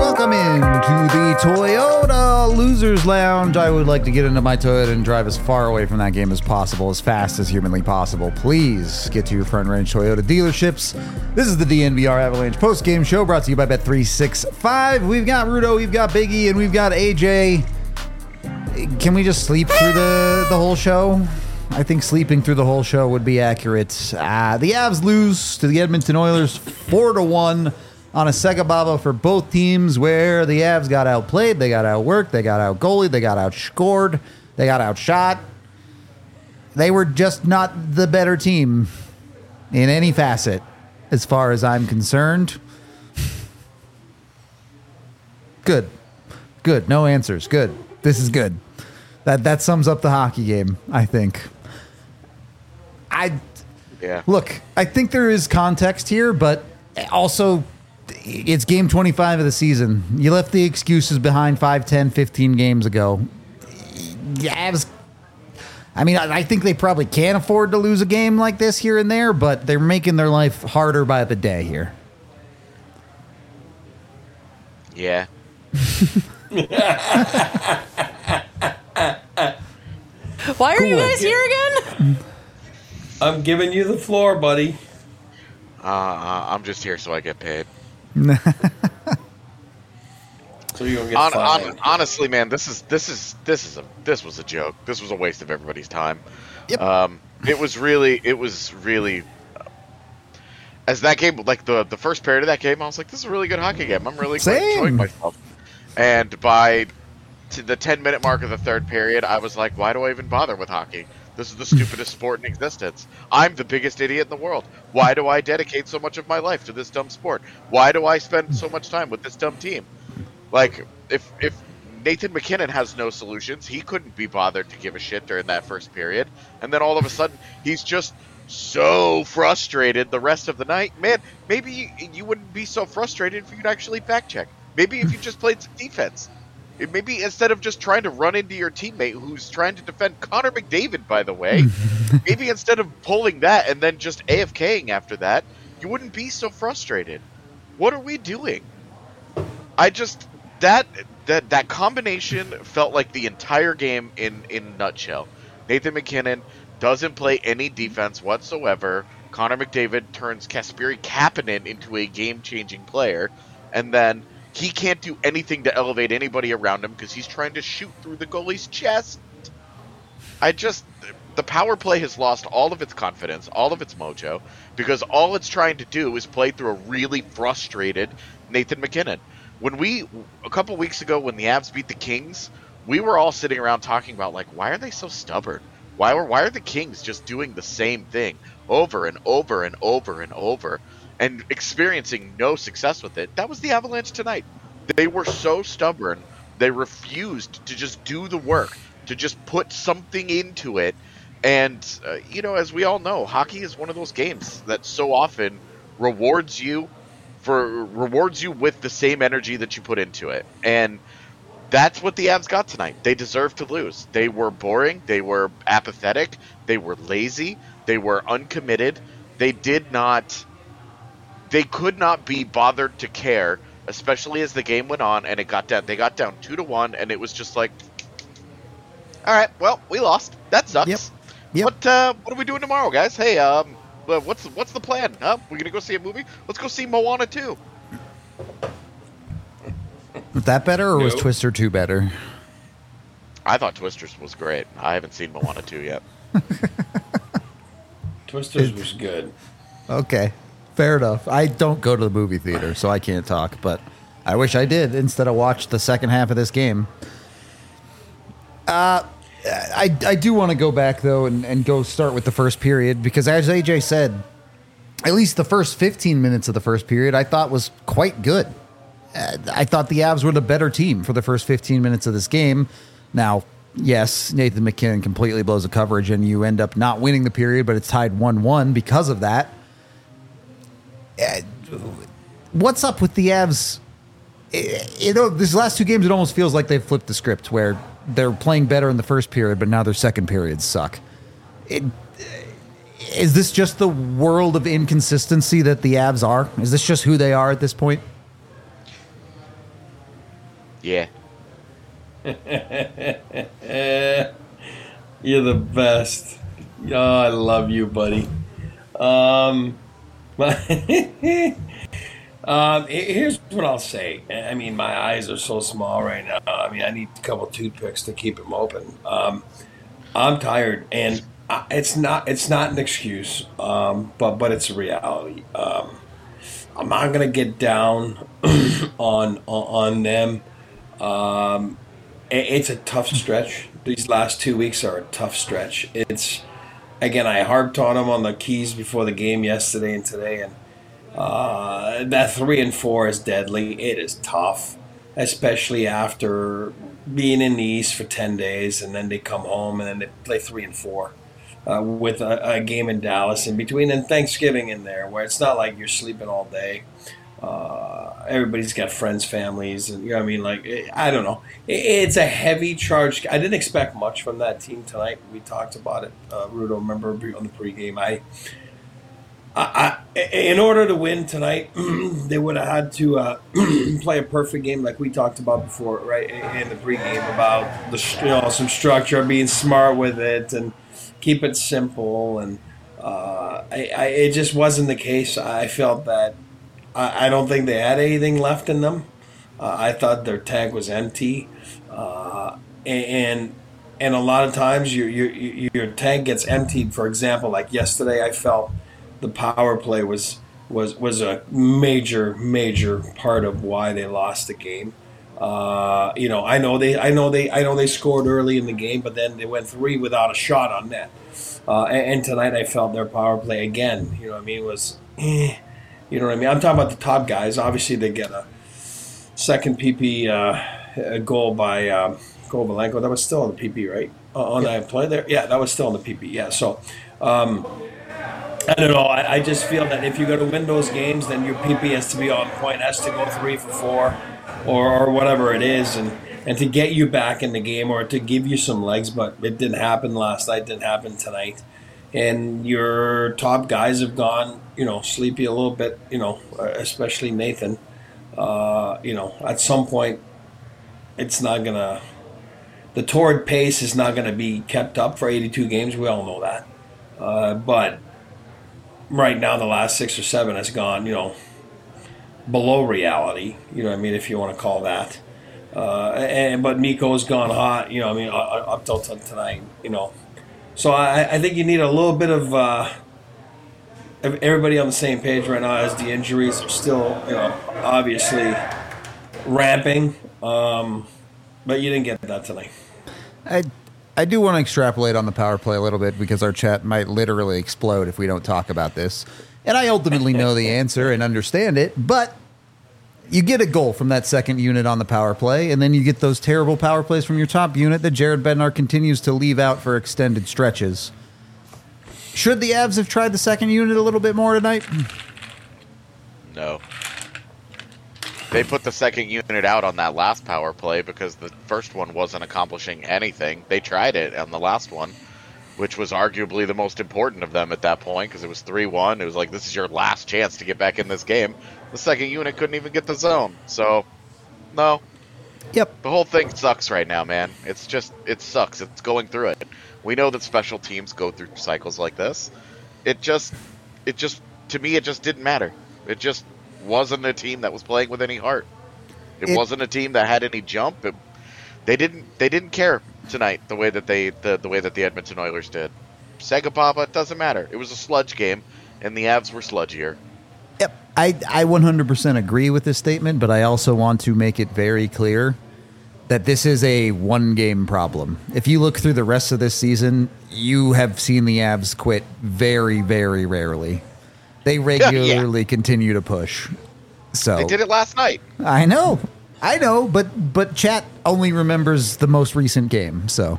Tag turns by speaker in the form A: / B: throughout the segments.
A: Welcome into the Toyota Losers Lounge. I would like to get into my Toyota and drive as far away from that game as possible, as fast as humanly possible. Please get to your Front Range Toyota dealerships. This is the DNVR Avalanche post-game show brought to you by Bet365. We've got Rudo, we've got Biggie, and we've got AJ. Can we just sleep through the whole show? I think sleeping through the whole show would be accurate. The Avs lose to the Edmonton Oilers 4-1 on a Sega Baba for both teams, where the Avs got outplayed, they got outworked, they got outgoalied, they got outscored, they got outshot. They were just not the better team in any facet, as far as I'm concerned. Good. No answers. Good. This is good. That sums up the hockey game, I think. Look, I think there is context here, but also it's game 25 of the season. You left the excuses behind 5, 10, 15 games ago. Avs, I mean, I think they probably can't afford to lose a game like this here and there, but they're making their life harder by the day here.
B: Yeah.
C: Why are you guys here again?
D: I'm giving you the floor, buddy.
B: I'm just here so I get paid.
D: So you don't get fined.
B: Honestly, man, this was a joke. This was a waste of everybody's time.
A: Yep.
B: It was really as that game, like the first period of that game, I was like, this is a really good hockey game. I'm really enjoying myself. And by the 10-minute mark of the third period, I was like, why do I even bother with hockey? This is the stupidest sport in existence. I'm the biggest idiot in the world. Why do I dedicate so much of my life to this dumb sport? Why do I spend so much time with this dumb team? Like, if Nathan MacKinnon has no solutions, he couldn't be bothered to give a shit during that first period. And then all of a sudden, he's just so frustrated the rest of the night. Man, maybe you wouldn't be so frustrated if you'd actually fact check. Maybe if you just played some defense. Maybe instead of just trying to run into your teammate who's trying to defend Connor McDavid, by the way, maybe instead of pulling that and then just AFKing after that, you wouldn't be so frustrated. What are we doing? That combination felt like the entire game in a nutshell. Nathan MacKinnon doesn't play any defense whatsoever. Connor McDavid turns Kasperi Kapanen into a game-changing player, and then he can't do anything to elevate anybody around him because he's trying to shoot through the goalie's chest. The power play has lost all of its confidence, all of its mojo, because all it's trying to do is play through a really frustrated Nathan MacKinnon. A couple weeks ago when the Avs beat the Kings, we were all sitting around talking about, like, why are they so stubborn? Why are the Kings just doing the same thing over and over and over and over and experiencing no success with it? That was the Avalanche tonight. They were so stubborn. They refused to just do the work, to just put something into it. And, as we all know, hockey is one of those games that so often rewards you with the same energy that you put into it. And that's what the Avs got tonight. They deserved to lose. They were boring. They were apathetic. They were lazy. They were uncommitted. They could not be bothered to care, especially as the game went on and it got down. They got down 2-1, and it was just like, all right, well, we lost. That sucks.
A: Yep.
B: What are we doing tomorrow, guys? Hey, what's the plan? We're gonna go see a movie? Let's go see Moana 2.
A: Was that better, or was
D: No.
A: Twister 2 better?
B: I thought Twisters was great. I haven't seen Moana 2 yet.
D: Twisters was good.
A: Okay, fair enough. I don't go to the movie theater, so I can't talk, but I wish I did instead of watch the second half of this game. I do want to go back, though, and go start with the first period, because as AJ said, at least the first 15 minutes of the first period I thought was quite good. I thought the Avs were the better team for the first 15 minutes of this game. Now, yes, Nathan MacKinnon completely blows a coverage, and you end up not winning the period, but it's tied 1-1 because of that. What's up with the Avs? These last two games, it almost feels like they've flipped the script, where they're playing better in the first period, but now their second periods suck. Is this just the world of inconsistency that the Avs are? Is this just who they are at this point?
B: Yeah.
D: You're the best. Oh, I love you, buddy. Here's what I'll say. I mean, my eyes are so small right now. I mean, I need a couple toothpicks to keep them open. I'm tired, and it's not an excuse, but it's a reality. I'm not gonna get down on them. It's a tough stretch. These last 2 weeks are a tough stretch. Again, I harped on them on the keys before the game yesterday and today, and that 3 and 4 is deadly. It is tough, especially after being in the East for 10 days, and then they come home and then they play 3 and 4 with a game in Dallas in between, and Thanksgiving in there, where it's not like you're sleeping all day. Everybody's got friends, families, and you know what I mean. Like, I don't know. It's a heavy charge. I didn't expect much from that team tonight. We talked about it, Rudo. Remember on the pregame, I in order to win tonight, they would have had to play a perfect game, like we talked about before, right in the pregame, about some structure, being smart with it, and keep it simple. And it just wasn't the case. I felt that. I don't think they had anything left in them. I thought their tank was empty, and a lot of times your tank gets emptied. For example, like yesterday, I felt the power play was a major part of why they lost the game. I know they scored early in the game, but then they went 3 without a shot on net. And tonight, I felt their power play again. You know what I mean? Was. You know what I mean? I'm talking about the top guys. Obviously, they get a second PP goal by Kovalenko. That was still in the PP, right? On that play there? Yeah, that was still in the PP. Yeah, so I don't know. I just feel that if you're going to win those games, then your PP has to be on point, has to go 3 for 4 or whatever it is, and to get you back in the game or to give you some legs. But it didn't happen last night, didn't happen tonight. And your top guys have gone, sleepy a little bit, especially Nathan. At some point, it's not going to – the torrid pace is not going to be kept up for 82 games. We all know that. But right now, the last 6 or 7 has gone, below reality, if you want to call that. But Mikko's gone hot, up till tonight, So I think you need a little bit of everybody on the same page right now, as the injuries are still, obviously ramping. But you didn't get that tonight.
A: I do want to extrapolate on the power play a little bit, because our chat might literally explode if we don't talk about this. And I ultimately know the answer and understand it, but you get a goal from that second unit on the power play, and then you get those terrible power plays from your top unit that Jared Bednar continues to leave out for extended stretches. Should the Avs have tried the second unit a little bit more tonight?
B: No. They put the second unit out on that last power play because the first one wasn't accomplishing anything. They tried it on the last one, which was arguably the most important of them at that point, because it was 3-1. It was like, this is your last chance to get back in this game. The second unit couldn't even get the zone. So, no.
A: Yep.
B: The whole thing sucks right now, man. It sucks. It's going through it. We know that special teams go through cycles like this. To me, it just didn't matter. It just wasn't a team that was playing with any heart. It wasn't a team that had any jump. They didn't care tonight the way that the Edmonton Oilers did. Sega Papa, it doesn't matter. It was a sludge game, and the Avs were sludgier.
A: Yep, I 100% agree with this statement, but I also want to make it very clear that this is a one-game problem. If you look through the rest of this season, you have seen the Avs quit very, very rarely. They regularly continue to push. So
B: they did it last night.
A: I know, but chat only remembers the most recent game, so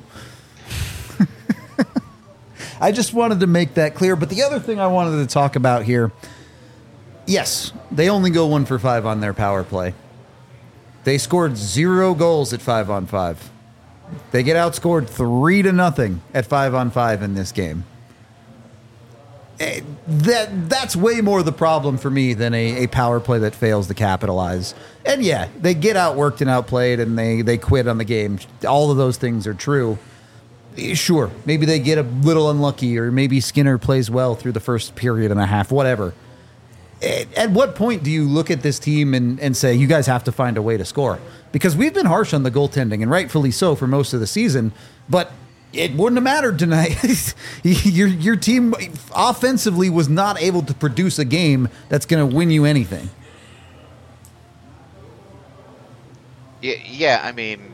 A: I just wanted to make that clear. But the other thing I wanted to talk about here, yes, they only go 1 for 5 on their power play. They scored 0 goals at 5-on-5. They get outscored 3-0 at 5-on-5 in this game. That's way more the problem for me than a power play that fails to capitalize. And yeah, they get outworked and outplayed, and they quit on the game. All of those things are true. Sure, maybe they get a little unlucky, or maybe Skinner plays well through the first period and a half, whatever. At what point do you look at this team and say, you guys have to find a way to score? Because we've been harsh on the goaltending, and rightfully so for most of the season, but it wouldn't have mattered tonight. Your team offensively was not able to produce a game that's going to win you anything.
B: Yeah, I mean,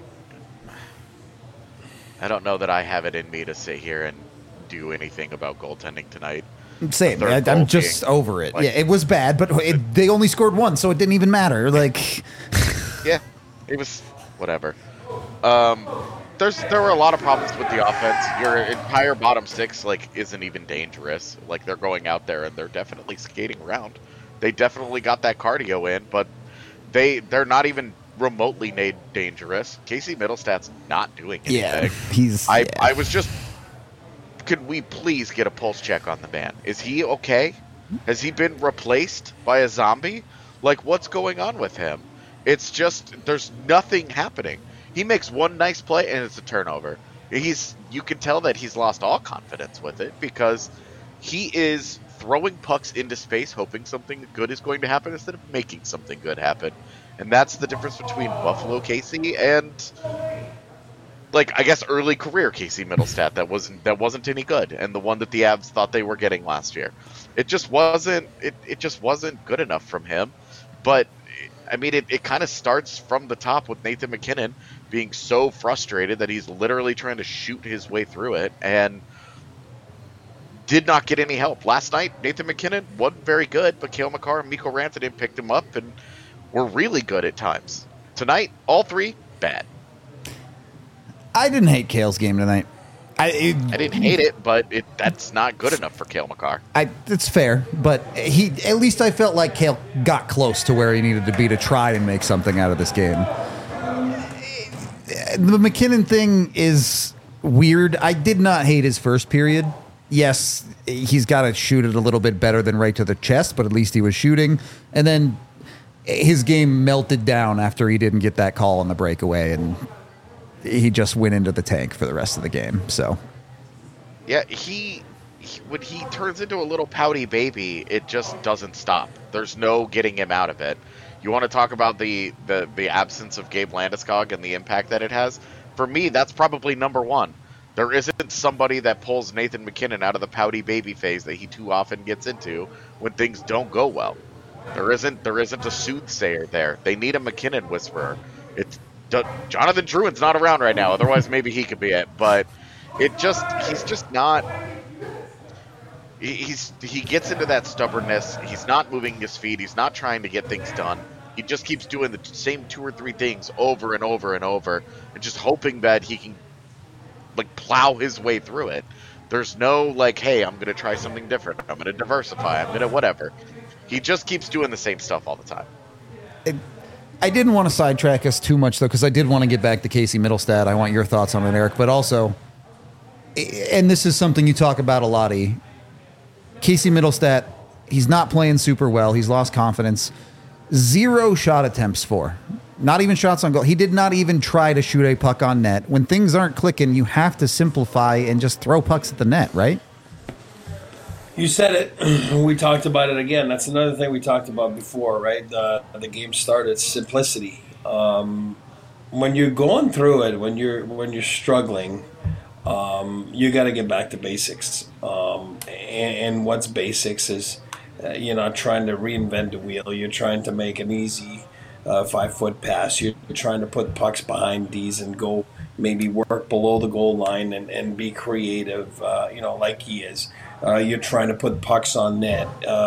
B: I don't know that I have it in me to sit here and do anything about goaltending tonight.
A: Same. I'm just over it. Yeah, it was bad, but they only scored one, so it didn't even matter. Like,
B: yeah, it was whatever. There were a lot of problems with the offense. Your entire bottom six isn't even dangerous. Like, they're going out there and they're definitely skating around. They definitely got that cardio in, but they're not even remotely dangerous. Casey Middlestad's not doing anything.
A: Yeah,
B: I was just. Could we please get a pulse check on the man? Is he okay? Has he been replaced by a zombie? Like, what's going on with him? It's just, there's nothing happening. He makes one nice play and it's a turnover. You can tell that he's lost all confidence with it, because he is throwing pucks into space hoping something good is going to happen instead of making something good happen. And that's the difference between Buffalo Casey and, I guess, early career Casey Middlestat that wasn't any good, and the one that the Avs thought they were getting last year. It just wasn't good enough from him. But I mean, it kind of starts from the top with Nathan MacKinnon being so frustrated that he's literally trying to shoot his way through it and did not get any help. Last night, Nathan MacKinnon wasn't very good, but Cale Makar and Mikko Rantanen picked him up and were really good at times. Tonight, all three, bad.
A: I didn't hate Cale's game tonight.
B: I didn't hate it, but that's not good enough for Cale Makar.
A: It's fair, but at least I felt like Cale got close to where he needed to be to try and make something out of this game. The MacKinnon thing is weird. I did not hate his first period. Yes, he's got to shoot it a little bit better than right to the chest, but at least he was shooting. And then his game melted down after he didn't get that call on the breakaway, and he just went into the tank for the rest of the game. So,
B: yeah, when he turns into a little pouty baby, it just doesn't stop. There's no getting him out of it. You want to talk about the absence of Gabe Landeskog and the impact that it has? For me, that's probably number one. There isn't somebody that pulls Nathan MacKinnon out of the pouty baby phase that he too often gets into when things don't go well. There isn't a soothsayer there. They need a MacKinnon whisperer. Jonathan Drouin's not around right now. Otherwise, maybe he could be it. But he's just not. He gets into that stubbornness. He's not moving his feet. He's not trying to get things done. He just keeps doing the same two or three things over and over and over, and just hoping that he can plow his way through it. There's no hey, I'm going to try something different. I'm going to diversify. I'm going to whatever. He just keeps doing the same stuff all the time.
A: I didn't want to sidetrack us too much, though, because I did want to get back to Casey Middlestat. I want your thoughts on it, Eric. But also, and this is something you talk about a lot, Casey Middlestat, he's not playing super well. He's lost confidence. 0 shot attempts for. Not even shots on goal. He did not even try to shoot a puck on net. When things aren't clicking, you have to simplify and just throw pucks at the net, right?
D: You said it. We talked about it again. That's another thing we talked about before, right? The game started. Simplicity. When you're going through it, when you're struggling, you got to get back to basics. And what's basics is you're not trying to reinvent the wheel. You're trying to make an easy 5-foot pass. You're trying to put pucks behind D's and go maybe work below the goal line and be creative, like he is. You're trying to put pucks on net,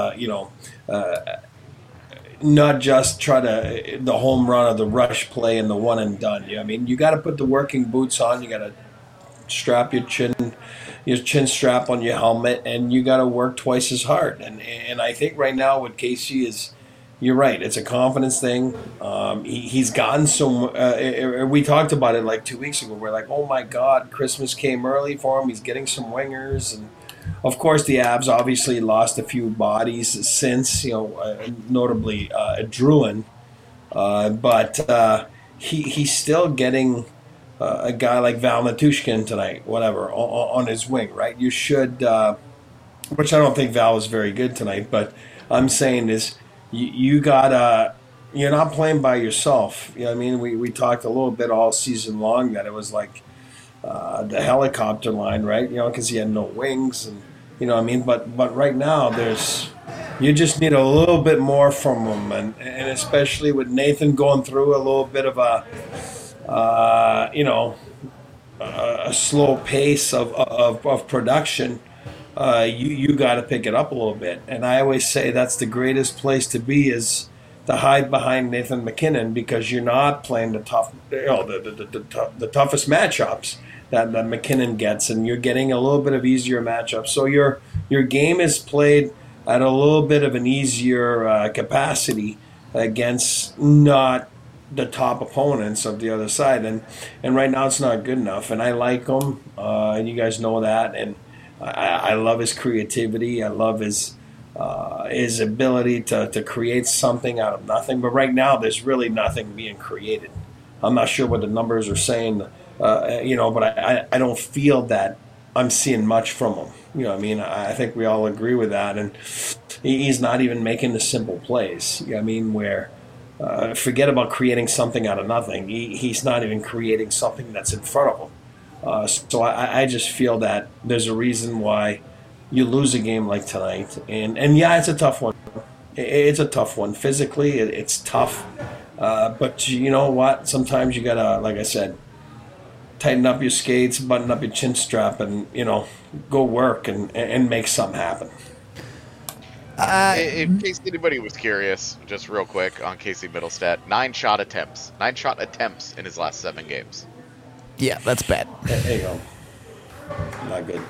D: not just try to the home run or the rush play and the one and done. I mean, you got to put the working boots on. You got to strap your chin strap on your helmet, and you got to work twice as hard. And I think right now what Casey is, you're right. It's a confidence thing. He's gotten so. We talked about it 2 weeks ago. We're like, oh my God, Christmas came early for him. He's getting some wingers and Of course, the Avs obviously lost a few bodies since, notably Druin, but he's still getting a guy like Val Matushkin tonight, whatever, on his wing, right? You should, which I don't think Val was very good tonight, but I'm saying is you gotta. You're not playing by yourself. You know what I mean? We talked a little bit all season long that it was like the helicopter line, right? Because he had no wings, and you know what I mean. But right now, you just need a little bit more from him, and especially with Nathan going through a little bit of a slow pace of production. You got to pick it up a little bit, and I always say that's the greatest place to be is to hide behind Nathan MacKinnon because you're not playing the toughest matchups that MacKinnon gets, and you're getting a little bit of easier matchups. So your game is played at a little bit of an easier capacity against not the top opponents of the other side, and right now it's not good enough. And I like him, and you guys know that, and I love his creativity. I love his ability to create something out of nothing. But right now, there's really nothing being created. I'm not sure what the numbers are saying, but I don't feel that I'm seeing much from him. You know what I mean? I think we all agree with that. And he's not even making the simple plays. You know what I mean? Where forget about creating something out of nothing. He's not even creating something that's in front of him. So I just feel that there's a reason why you lose a game like tonight, and yeah, it's a tough one. It's a tough one. Physically, it's tough. But you know what? Sometimes you gotta, like I said, tighten up your skates, button up your chin strap, and go work and make something happen.
B: In case anybody was curious, just real quick on Casey Middlestat, 9 shot attempts in his last 7 games.
A: Yeah, that's bad.
D: There you go. Not good.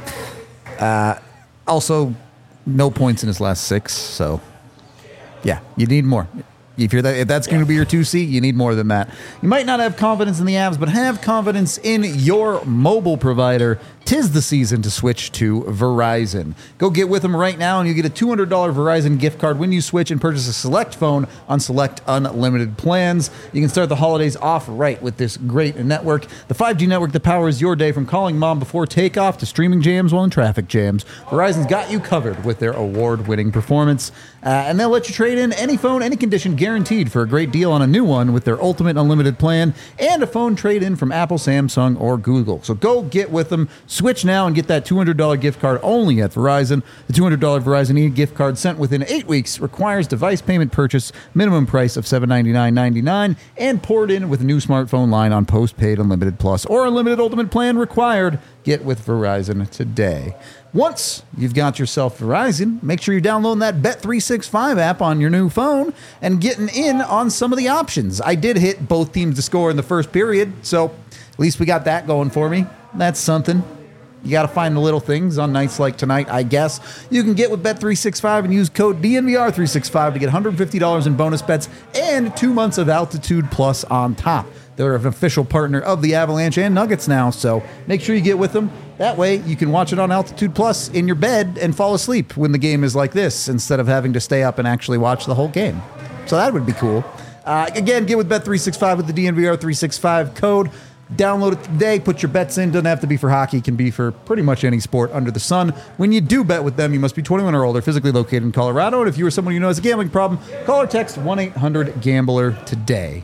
A: Also, no points in his last 6, so yeah, you need more. If that's going to be your 2C, you need more than that. You might not have confidence in the Avs, but have confidence in your mobile provider. 'Tis the season to switch to Verizon. Go get with them right now, and you get a $200 Verizon gift card when you switch and purchase a select phone on select unlimited plans. You can start the holidays off right with this great network. The 5G network that powers your day from calling mom before takeoff to streaming jams while in traffic jams. Verizon's got you covered with their award-winning performance. And they'll let you trade in any phone, any condition, guaranteed for a great deal on a new one with their ultimate unlimited plan and a phone trade-in from Apple, Samsung, or Google. So go get with them. Switch now and get that $200 gift card only at Verizon. The $200 Verizon e-gift card sent within 8 weeks requires device payment purchase, minimum price of $799.99, and poured in with a new smartphone line on postpaid Unlimited Plus or Unlimited Ultimate Plan required. Get with Verizon today. Once you've got yourself Verizon, make sure you're downloading that Bet365 app on your new phone and getting in on some of the options. I did hit both teams to score in the first period, so at least we got that going for me. That's something. You got to find the little things on nights like tonight, I guess. You can get with Bet365 and use code DNVR365 to get $150 in bonus bets and 2 months of Altitude Plus on top. They're an official partner of the Avalanche and Nuggets now, so make sure you get with them. That way, you can watch it on Altitude Plus in your bed and fall asleep when the game is like this, instead of having to stay up and actually watch the whole game. So that would be cool. Again, get with Bet365 with the DNVR365 code. Download it today. Put your bets in. Doesn't have to be for hockey. It can be for pretty much any sport under the sun. When you do bet with them, you must be 21 or older, physically located in Colorado. And if you or someone you know has a gambling problem, call or text 1-800-GAMBLER today.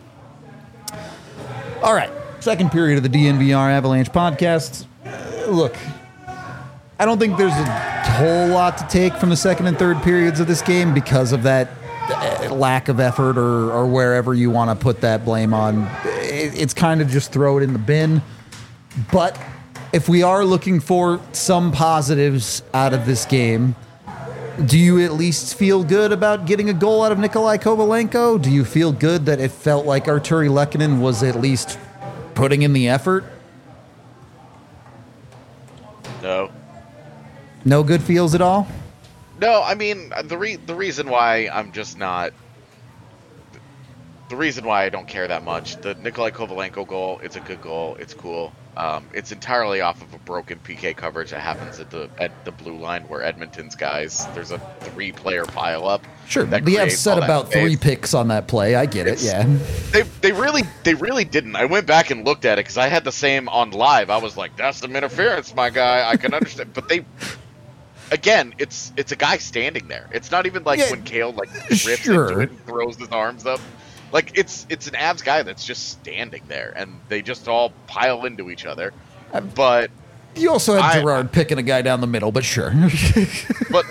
A: All right, second period of the DNVR Avalanche podcast. Look, I don't think there's a whole lot to take from the second and third periods of this game because of that lack of effort or wherever you want to put that blame on. It's kind of just throw it in the bin. But if we are looking for some positives out of this game, do you at least feel good about getting a goal out of Nikolai Kovalenko? Do you feel good that it felt like Artturi Lehkonen was at least putting in the effort?
B: No.
A: No good feels at all?
B: No, I mean, the reason why I'm just not the reason why I don't care that much, the Nikolai Kovalenko goal, it's a good goal. It's cool. It's entirely off of a broken PK coverage that happens at the blue line where Edmonton's guys, there's a 3-player pileup.
A: Sure, the Avs set about 3 picks on that play. I get it, yeah.
B: They really didn't. I went back and looked at it because I had the same on live. I was like, that's some interference, my guy. I can understand. But again, it's a guy standing there. It's not even like when Kale rips into it and throws his arms up. Like, it's an Avs guy that's just standing there, and they just all pile into each other. But
A: you also had Gerard picking a guy down the middle, but sure.
B: But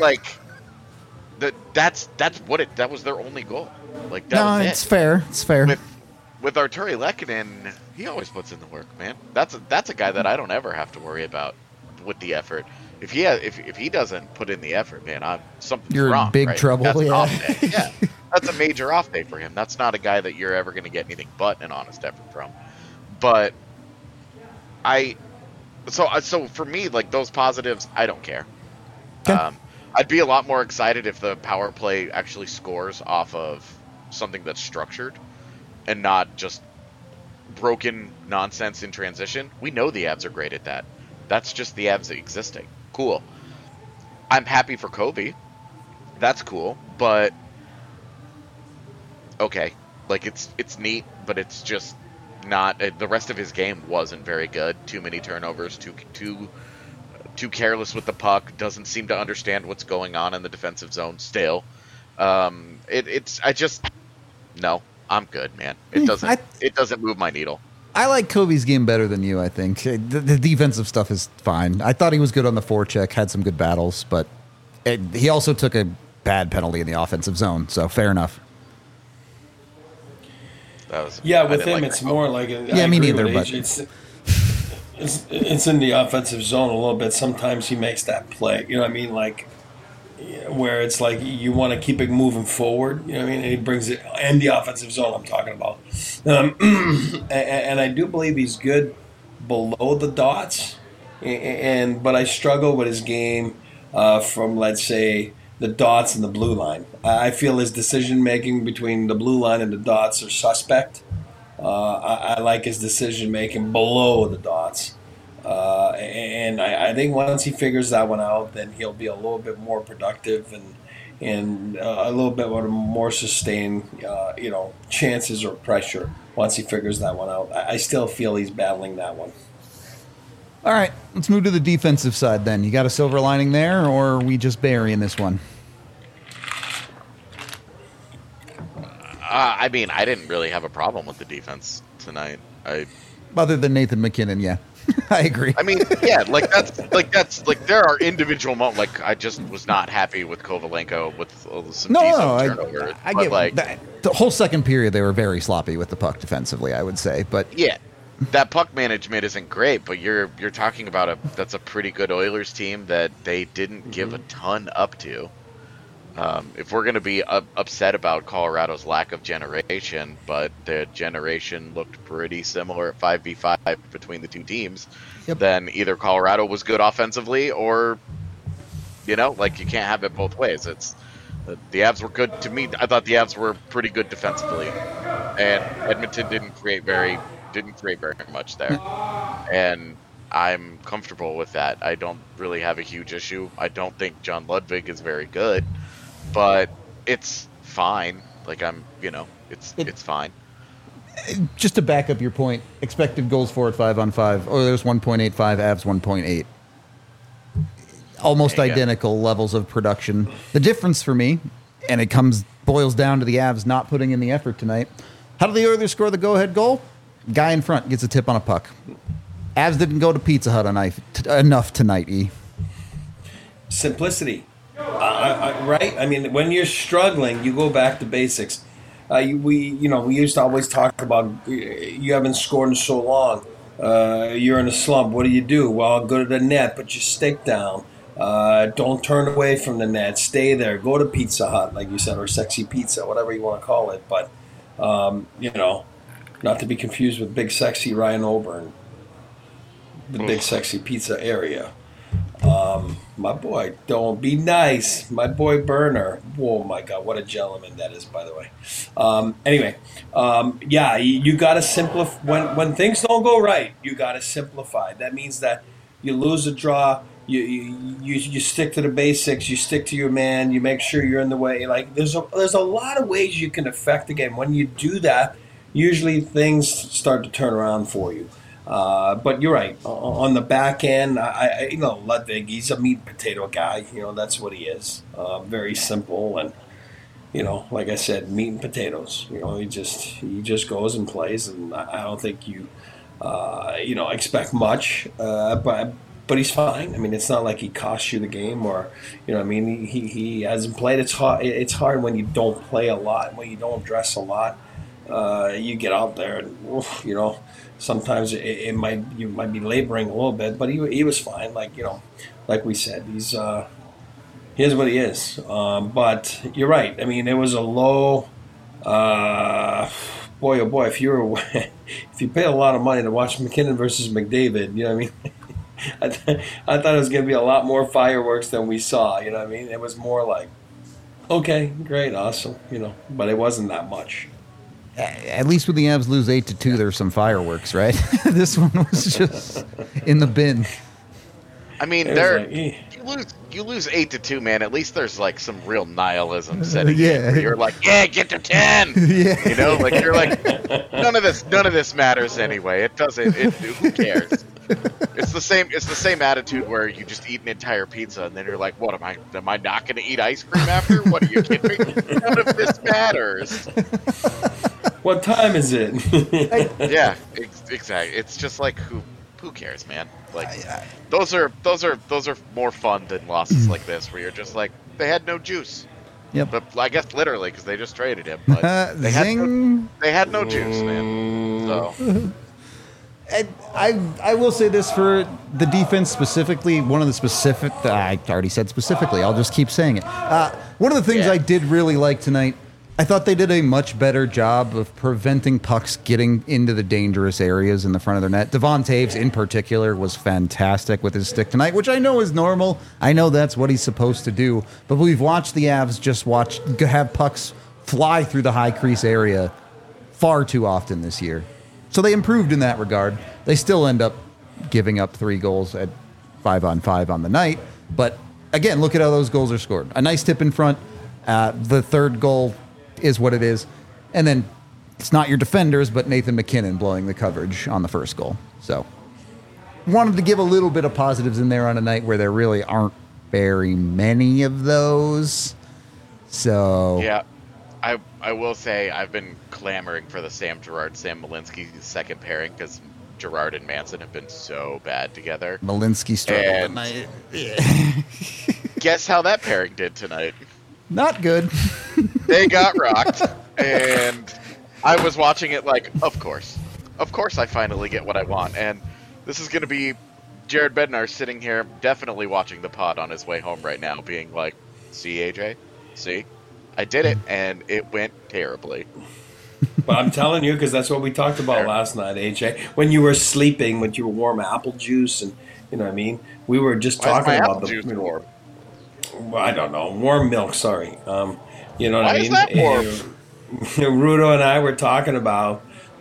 B: that was their only goal. Like, that was it.
A: It's fair. It's fair.
B: With Arturi Lehkonen, he always puts in the work, man. That's a guy that I don't ever have to worry about with the effort. If he doesn't put in the effort, man, something's
A: you're
B: wrong.
A: In big
B: right?
A: trouble.
B: That's an
A: yeah.
B: off day. Yeah, that's a major off day for him. That's not a guy that you're ever going to get anything but an honest effort from. But so for me, like, those positives, I don't care.
A: Okay.
B: I'd be a lot more excited if the power play actually scores off of something that's structured and not just broken nonsense in transition. We know the Avs are great at that. That's just the Avs existing. Cool. I'm happy for Kobe. That's cool, but okay. Like, it's neat, but it's just not. The rest of his game wasn't very good. Too many turnovers. Too careless with the puck. Doesn't seem to understand what's going on in the defensive zone. Still, no. I'm good, man. It doesn't move my needle.
A: I like Kobe's game better than you, I think. The defensive stuff is fine. I thought he was good on the forecheck, had some good battles, but he also took a bad penalty in the offensive zone, so fair enough.
D: With him, it's more like...
A: me neither, but...
D: It's in the offensive zone a little bit. Sometimes he makes that play, you know what I mean? Like, where it's like you want to keep it moving forward, you know what I mean? And he brings it in the offensive zone I'm talking about. And I do believe he's good below the dots, but I struggle with his game from, let's say, the dots and the blue line. I feel his decision-making between the blue line and the dots are suspect. I like his decision-making below the dots. And I think once he figures that one out, then he'll be a little bit more productive and a little bit more sustained, chances or pressure once he figures that one out. I still feel he's battling that one.
A: All right, let's move to the defensive side then. You got a silver lining there, or are we just burying this one?
B: I mean, I didn't really have a problem with the defense tonight.
A: Other than Nathan MacKinnon, yeah. I agree.
B: I mean, yeah, that's there are individual moments. Like, I just was not happy with Kovalenko with some decent turnovers.
A: I get that. The whole second period they were very sloppy with the puck defensively, I would say. But
B: yeah, that puck management isn't great. But you're talking about that's a pretty good Oilers team that they didn't give a ton up to. If we're going to be upset about Colorado's lack of generation, but the generation looked pretty similar at 5v5 between the two teams, then either Colorado was good offensively or, you can't have it both ways. It's the Avs were good to me. I thought the Avs were pretty good defensively, and Edmonton didn't create very much there. And I'm comfortable with that. I don't really have a huge issue. I don't think John Ludwig is very good. But it's fine. Like, it's fine.
A: Just to back up your point, expected goals for at 5-on-5. Oilers 1.85, Avs 1.8. Almost identical levels of production. The difference for me, and it boils down to the Avs not putting in the effort tonight. How did the Oilers score the go-ahead goal? Guy in front gets a tip on a puck. Avs didn't go to Pizza Hut enough tonight, E.
D: Simplicity. Right? I mean, when you're struggling, you go back to basics. We used to always talk about you haven't scored in so long. You're in a slump. What do? Well, go to the net, put your stick down. Don't turn away from the net. Stay there. Go to Pizza Hut, like you said, or Sexy Pizza, whatever you want to call it. But, not to be confused with Big Sexy Ryan Oburn, the Big Sexy Pizza area. My boy, don't be nice. My boy Burner. Oh my God, what a gentleman that is, by the way. Anyway, yeah, you got to simplify. When things don't go right, you got to simplify. That means that you lose a draw. You stick to the basics. You stick to your man. You make sure you're in the way. Like there's a lot of ways you can affect the game. When you do that, usually things start to turn around for you. But you're right. On the back end, Ludwig, he's a meat and potato guy. That's what he is. Very simple and, like I said, meat and potatoes. He just goes and plays, and I don't think you expect much. But he's fine. I mean, it's not like he costs you the game or, he hasn't played. It's hard when you don't play a lot, when you don't dress a lot. You get out there and, sometimes you might be laboring a little bit, but he was fine. Like we said, he's what he is. But you're right. I mean, it was a low. Boy, oh boy, if you pay a lot of money to watch McKinnon versus McDavid, you know what I mean. I thought it was going to be a lot more fireworks than we saw. You know what I mean. It was more like, okay, great, awesome. But it wasn't that much.
A: At least when the Avs lose 8-2, there's some fireworks, right? This one was just in the bin.
B: I mean, you lose 8-2, man. At least there's like some real nihilism setting in. Where you're like, yeah, get to 10. Yeah. Like you're like, none of this matters anyway. It doesn't. Who cares? It's the same attitude where you just eat an entire pizza and then you're like, what am I not going to eat ice cream after? What are you kidding me? None of this matters.
D: What time is it?
B: Yeah, exactly. It's just like who cares, man? Like those are more fun than losses like this, where you're just like they had no juice.
A: Yep.
B: But I guess literally because they just traded him. But they had no juice, man. So.
A: And I will say this for the defense specifically. One of the specific, I already said specifically. I'll just keep saying it. One of the things I did really like tonight, I thought they did a much better job of preventing pucks getting into the dangerous areas in the front of their net. Devon Toews, in particular, was fantastic with his stick tonight, which I know is normal. I know that's what he's supposed to do. But we've watched the Avs have pucks fly through the high crease area far too often this year. So they improved in that regard. They still end up giving up 3 goals at 5-on-5 on the night. But again, look at how those goals are scored. A nice tip in front. The third goal is what it is. And then it's not your defenders, but Nathan McKinnon blowing the coverage on the first goal. So wanted to give a little bit of positives in there on a night where there really aren't very many of those. So
B: yeah. I will say I've been clamoring for the Sam Malinsky second pairing because Girard and Manson have been so bad together.
A: Malinsky struggled tonight.
B: Guess how that pairing did tonight?
A: Not good.
B: They got rocked, and I was watching it like, of course I finally get what I want. And this is going to be Jared Bednar sitting here definitely watching the pod on his way home right now being like, see, AJ? See? I did it, and it went terribly.
D: But I'm telling you, because that's what we talked about last night, AJ. When you were sleeping, with your warm apple juice, and you know what I mean? We were just talking about the juice warm. I don't know, warm milk. Sorry, you know what I mean?
B: Why is that warm?
D: Rudo and I were talking about,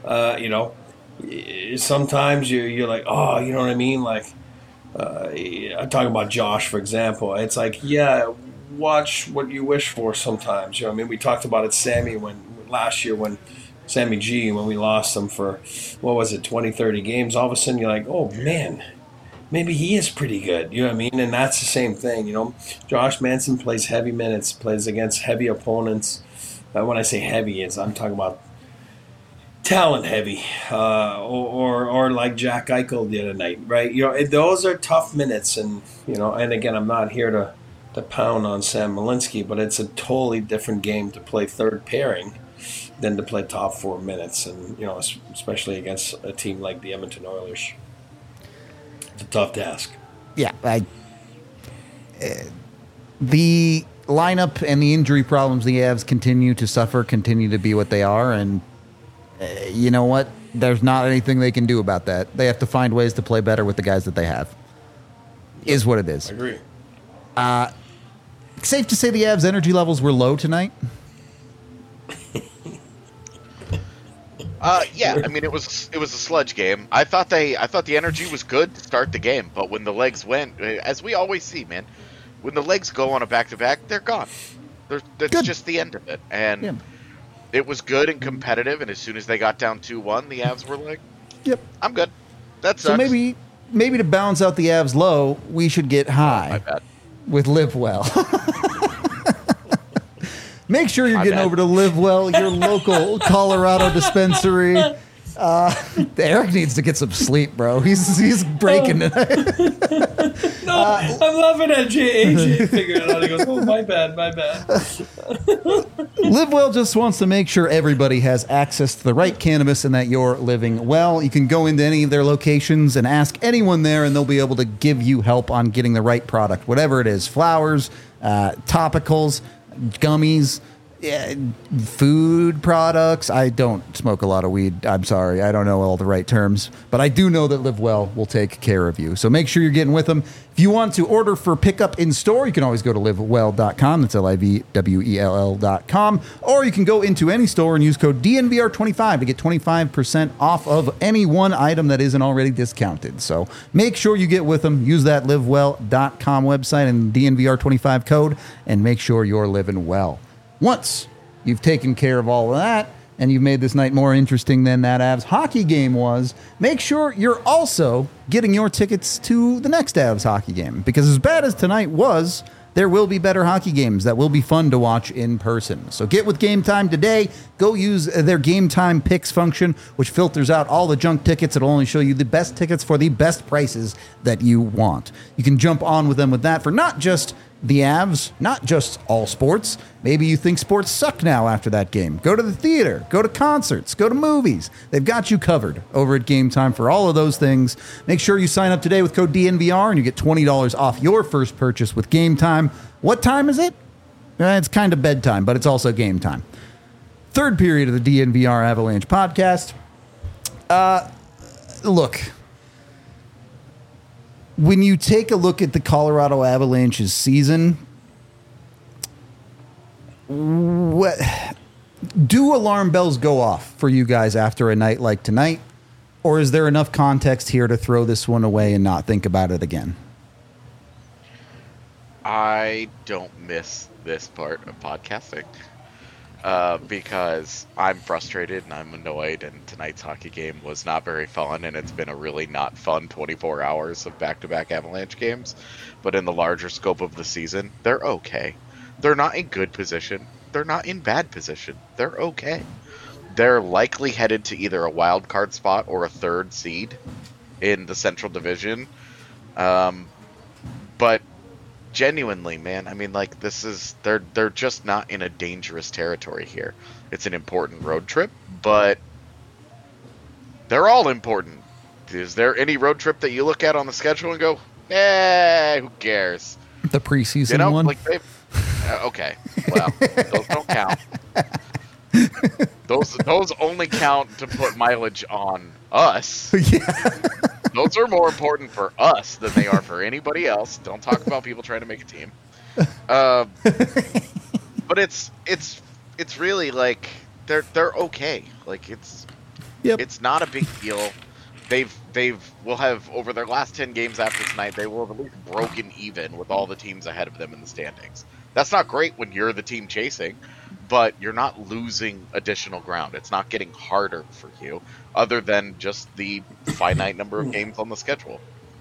D: sometimes you're like, oh, you know what I mean? Like, I'm talking about Josh, for example. It's like, yeah. Watch what you wish for sometimes. You know what I mean? We talked about it, Sammy, last year when Sammy G, when we lost him for, 20, 30 games, all of a sudden you're like, oh, man, maybe he is pretty good. You know what I mean? And that's the same thing, Josh Manson plays heavy minutes, plays against heavy opponents. When I say heavy, I'm talking about talent heavy, or like Jack Eichel the other night, right? Those are tough minutes, and, and again, I'm not here to pound on Sam Malinsky, but it's a totally different game to play third pairing than to play top 4 minutes, and especially against a team like the Edmonton Oilers. It's a tough task.
A: Yeah, the lineup and the injury problems the Avs continue to be what they are, and you know what? There's not anything they can do about that. They have to find ways to play better with the guys that they have. is what it is.
D: I agree.
A: Safe to say the Avs' energy levels were low tonight?
B: Yeah, I mean it was a sludge game. I thought the energy was good to start the game, but when the legs went, as we always see, man, when the legs go on a back-to-back, they're gone. That's just the end of it. And it was good and competitive, and as soon as they got down 2-1, the Avs were like, "Yep, I'm good." That's
A: so maybe to balance out the Avs low, we should get high.
B: My bad.
A: With Live Well. Make sure you're getting over to Live Well, your local Colorado dispensary. Eric needs to get some sleep, bro. He's breaking tonight.
D: No, I'm laughing at AJ figuring it out. He goes, "Oh, my bad."
A: Live Well just wants to make sure everybody has access to the right cannabis and that you're living well. You can go into any of their locations and ask anyone there, and they'll be able to give you help on getting the right product, whatever it is, flowers, topicals, gummies, food products. I don't smoke a lot of weed. I'm sorry. I don't know all the right terms, but I do know that Live Well will take care of you. So make sure you're getting with them. If you want to order for pickup in store, you can always go to livewell.com. That's LIVWELL.com. Or you can go into any store and use code DNVR25 to get 25% off of any one item that isn't already discounted. So make sure you get with them. Use that livewell.com website and DNVR25 code, and make sure you're living well. Once you've taken care of all of that and you've made this night more interesting than that Avs hockey game was, make sure you're also getting your tickets to the next Avs hockey game. Because as bad as tonight was, there will be better hockey games that will be fun to watch in person. So get with Game Time today. Go use their Game Time Picks function, which filters out all the junk tickets. It'll only show you the best tickets for the best prices that you want. You can jump on with them with that for not just the Avs, not just all sports. Maybe you think sports suck now after that game. Go to the theater, go to concerts, go to movies. They've got you covered over at Game Time for all of those things. Make sure you sign up today with code DNVR and you get $20 off your first purchase with Game Time. What time is it? It's kind of bedtime, but it's also game time. Third period of the DNVR Avalanche podcast. Look, when you take a look at the Colorado Avalanche's season, do alarm bells go off for you guys after a night like tonight? Or is there enough context here to throw this one away and not think about it again?
B: I don't miss this part of podcasting because I'm frustrated and I'm annoyed, and tonight's hockey game was not very fun, and it's been a really not fun 24 hours of back-to-back Avalanche games. But in the larger scope of the season, they're okay. They're not in good position. They're not in bad position. They're okay. They're likely headed to either a wild card spot or a third seed in the Central Division. But genuinely, man, I mean, like, they're just not in a dangerous territory here. It's an important road trip, but they're all important. Is there any road trip that you look at on the schedule and go, who cares?
A: The preseason one?
B: Like okay, well, those don't count. Those only count to put mileage on us. Yeah. Those are more important for us than they are for anybody else. Don't talk about people trying to make a team. But it's really like they're okay. Like it's not a big deal. Will have over their last 10 games after tonight, they will have at least broken even with all the teams ahead of them in the standings. That's not great when you're the team chasing, but you're not losing additional ground. It's not getting harder for you, other than just the finite number of games on the schedule.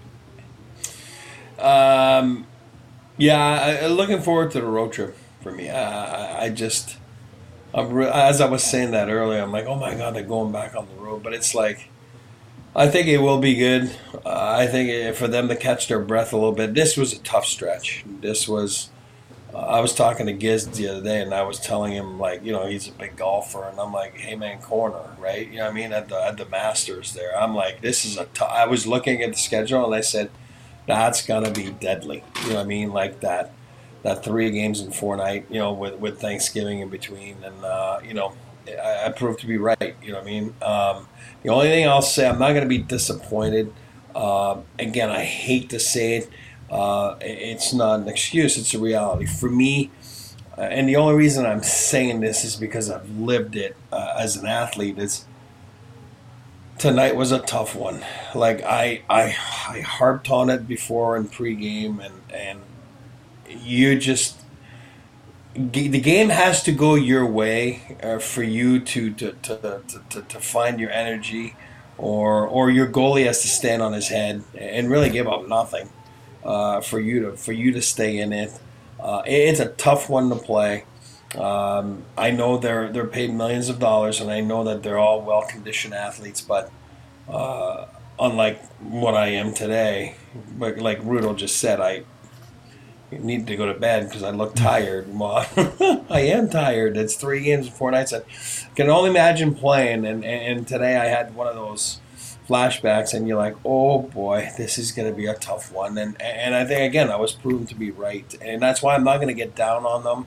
D: Looking forward to the road trip for me. As I was saying that earlier, I'm like, oh my God, they're going back on the road. But it's like, I think it will be good. I think for them to catch their breath a little bit. This was a tough stretch. This was. I was talking to Giz the other day, and I was telling him, like, you know, he's a big golfer, and I'm like, hey man, corner, right? You know what I mean? At the Masters there, I'm like, this is I was looking at the schedule, and I said, that's gonna be deadly. You know what I mean? Like that 3 games in 4 night, you know, with Thanksgiving in between, and you know, I proved to be right. You know what I mean? The only thing I'll say, I'm not gonna be disappointed. Again, I hate to say it. It's not an excuse, it's a reality. For me, and the only reason I'm saying this is because I've lived it as an athlete, is tonight was a tough one. Like, I harped on it before in pregame, and you just, the game has to go your way for you to find your energy, or your goalie has to stand on his head and really give up nothing for you to stay in it. It's a tough one to play. I know they're paid millions of dollars, and I know that they're all well conditioned athletes, but unlike what I am today, but like Rudo just said, I need to go to bed because I look tired. Well, I am tired. It's 3 games in 4 nights. I can only imagine playing, and today I had one of those flashbacks, and you're like, oh boy, this is going to be a tough one. And I think, again, I was proven to be right. And that's why I'm not going to get down on them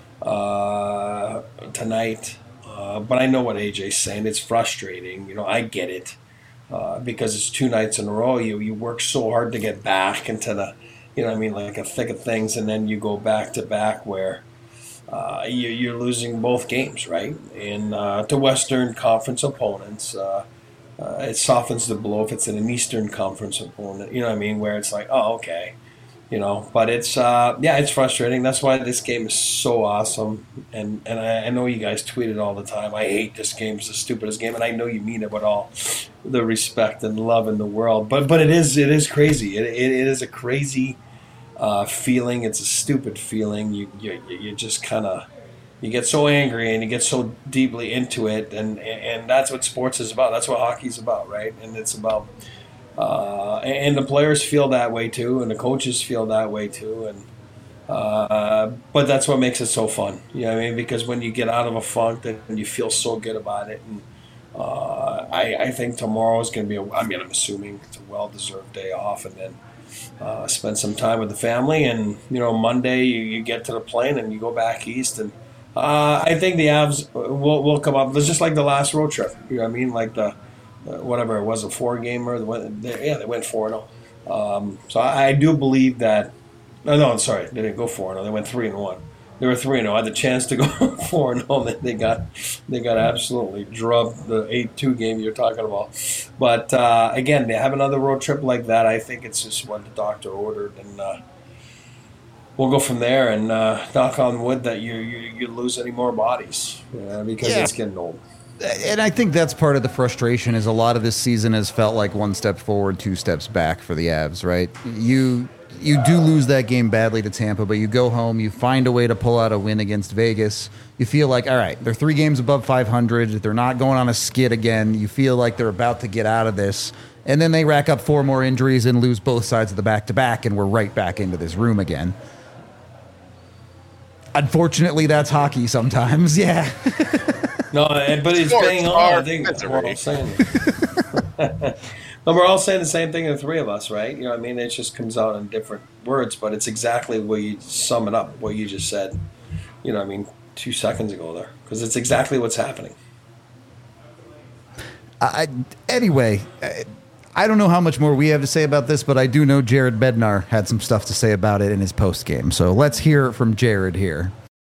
D: tonight. But I know what AJ's saying. It's frustrating. I get it because it's 2 nights in a row. You work so hard to get back into the, like a thick of things, and then you go back to back where you're losing both games, right? And to Western Conference opponents, it softens the blow if it's an Eastern Conference opponent, where it's like, oh, okay. But it's it's frustrating. That's why this game is so awesome. And I know you guys tweet it all the time. I hate this game. It's the stupidest game, and I know you mean it with all the respect and love in the world. But it is crazy. It is a crazy feeling. It's a stupid feeling. You just kind of, you get so angry and you get so deeply into it, and that's what sports is about. That's what hockey's about, right? And it's about. And the players feel that way too, and the coaches feel that way too, and but that's what makes it so fun. Because when you get out of a funk, then you feel so good about it. And I think tomorrow is going to be I'm assuming it's a well-deserved day off, and then spend some time with the family. And Monday you get to the plane and you go back east, and I think the Avs will come up. It's just like the last road trip. Like the. Whatever it was, a 4-gamer. They went 4-0. So I do believe that. No, I'm sorry, they didn't go 4-0. They went 3-1. They were 3-0. I had the chance to go 4-0. Then they got absolutely drubbed, the 8-2 game you're talking about. But again, they have another road trip like that. I think it's just what the doctor ordered, and we'll go from there. And knock on wood that you lose any more bodies, because it's getting old.
A: And I think that's part of the frustration, is a lot of this season has felt like 1 step forward, 2 steps back for the Avs, right? You do lose that game badly to Tampa, but you go home, you find a way to pull out a win against Vegas. You feel like, all right, they're 3 games above 500. They're not going on a skid again. You feel like they're about to get out of this. And then they rack up 4 more injuries and lose both sides of the back-to-back, and we're right back into this room again. Unfortunately, that's hockey sometimes, yeah.
D: No, but it's bang on. I think we're all saying it. No, we're all saying the same thing, the 3 of us, right? It just comes out in different words, but it's exactly where you sum it up, what you just said. 2 seconds ago there, because it's exactly what's happening.
A: Anyway, I don't know how much more we have to say about this, but I do know Jared Bednar had some stuff to say about it in his post game. So let's hear it from Jared here.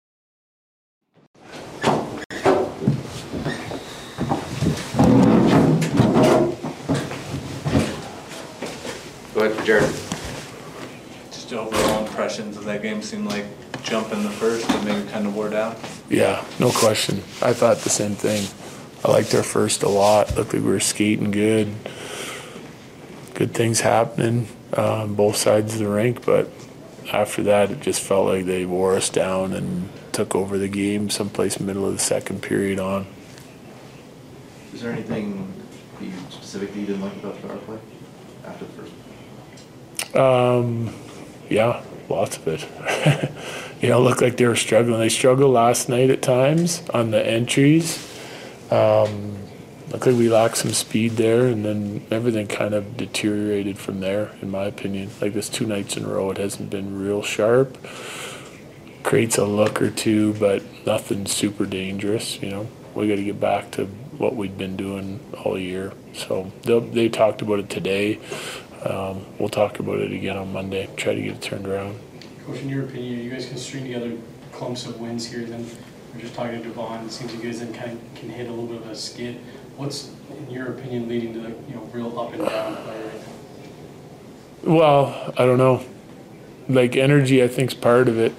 E: Go ahead, Jared.
F: Just overall impressions of that game. Seemed like jump in the first, but maybe kind of wore down.
G: Yeah, no question. I thought the same thing. I liked our first a lot. Looked like we were skating good. Good things happening on both sides of the rink, but after that, it just felt like they wore us down and took over the game someplace middle of the second period on.
E: Is there anything you specifically didn't like about the power play after the first?
G: Yeah, lots of it. It looked like they were struggling. They struggled last night at times on the entries. Looked like we lacked some speed there, and then everything kind of deteriorated from there, in my opinion. Like this 2 nights in a row, it hasn't been real sharp. Creates a look or two, but nothing super dangerous, We got to get back to what we'd been doing all year. So they talked about it today. we'll talk about it again on Monday, try to get it turned around.
H: Coach, in your opinion, you guys can string together clumps of wins here, then we're just talking to Devon, it seems you guys then kind of can hit a little bit of a skid. What's, in your opinion, leading to real up and down play right now?
G: Well, I don't know. Like, energy, I think, is part of it,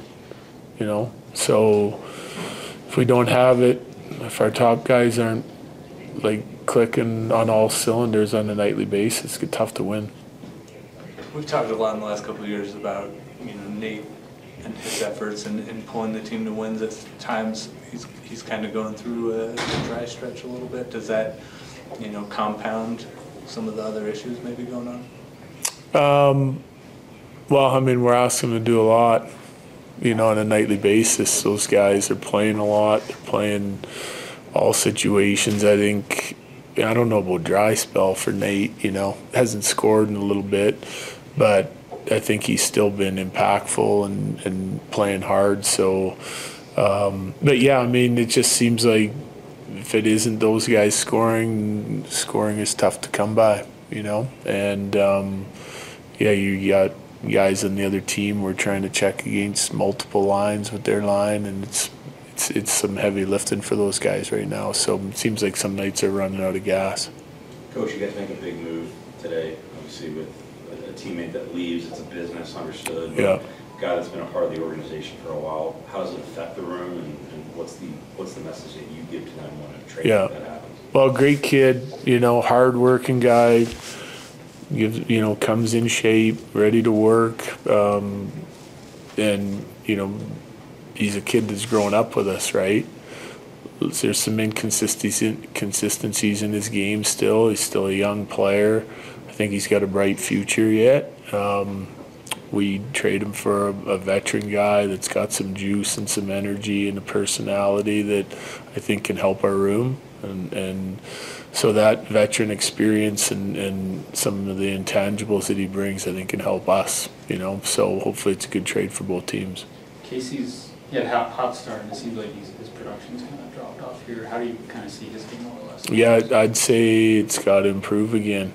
G: So if we don't have it, if our top guys aren't, clicking on all cylinders on a nightly basis, it's tough to win.
F: We've talked a lot in the last couple of years about, Nate and his efforts in pulling the team to wins. At times, he's kind of going through a dry stretch a little bit. Does that, compound some of the other issues maybe going on?
G: Well, we're asking them to do a lot, on a nightly basis. Those guys are playing a lot. They're playing all situations. I think, I don't know about dry spell for Nate, hasn't scored in a little bit, but I think he's still been impactful and playing hard. So, but yeah, it just seems like if it isn't those guys scoring is tough to come by, and you got guys on the other team we're trying to check against multiple lines with their line, and it's some heavy lifting for those guys right now. So it seems like some nights are running out of gas.
I: Coach, you guys make a big move today, obviously with a teammate that leaves. It's a business, understood. But
G: yeah.
I: A guy that's been a part of the organization for a while. How does it affect the room, and what's the message that you give to them when a trade like that happens? Well,
G: great kid, hard-working guy. Comes in shape, ready to work, and he's a kid that's grown up with us, right? There's some inconsistencies in his game still. He's still a young player. I think he's got a bright future yet. We trade him for a veteran guy that's got some juice and some energy and a personality that I think can help our room. And so that veteran experience and some of the intangibles that he brings, I think, can help us, So hopefully it's a good trade for both teams.
H: Casey's had a hot start, and it seems like his production's kind of dropped off here. How do you kind of see his game over the last?
G: Yeah, I'd say it's got to improve again,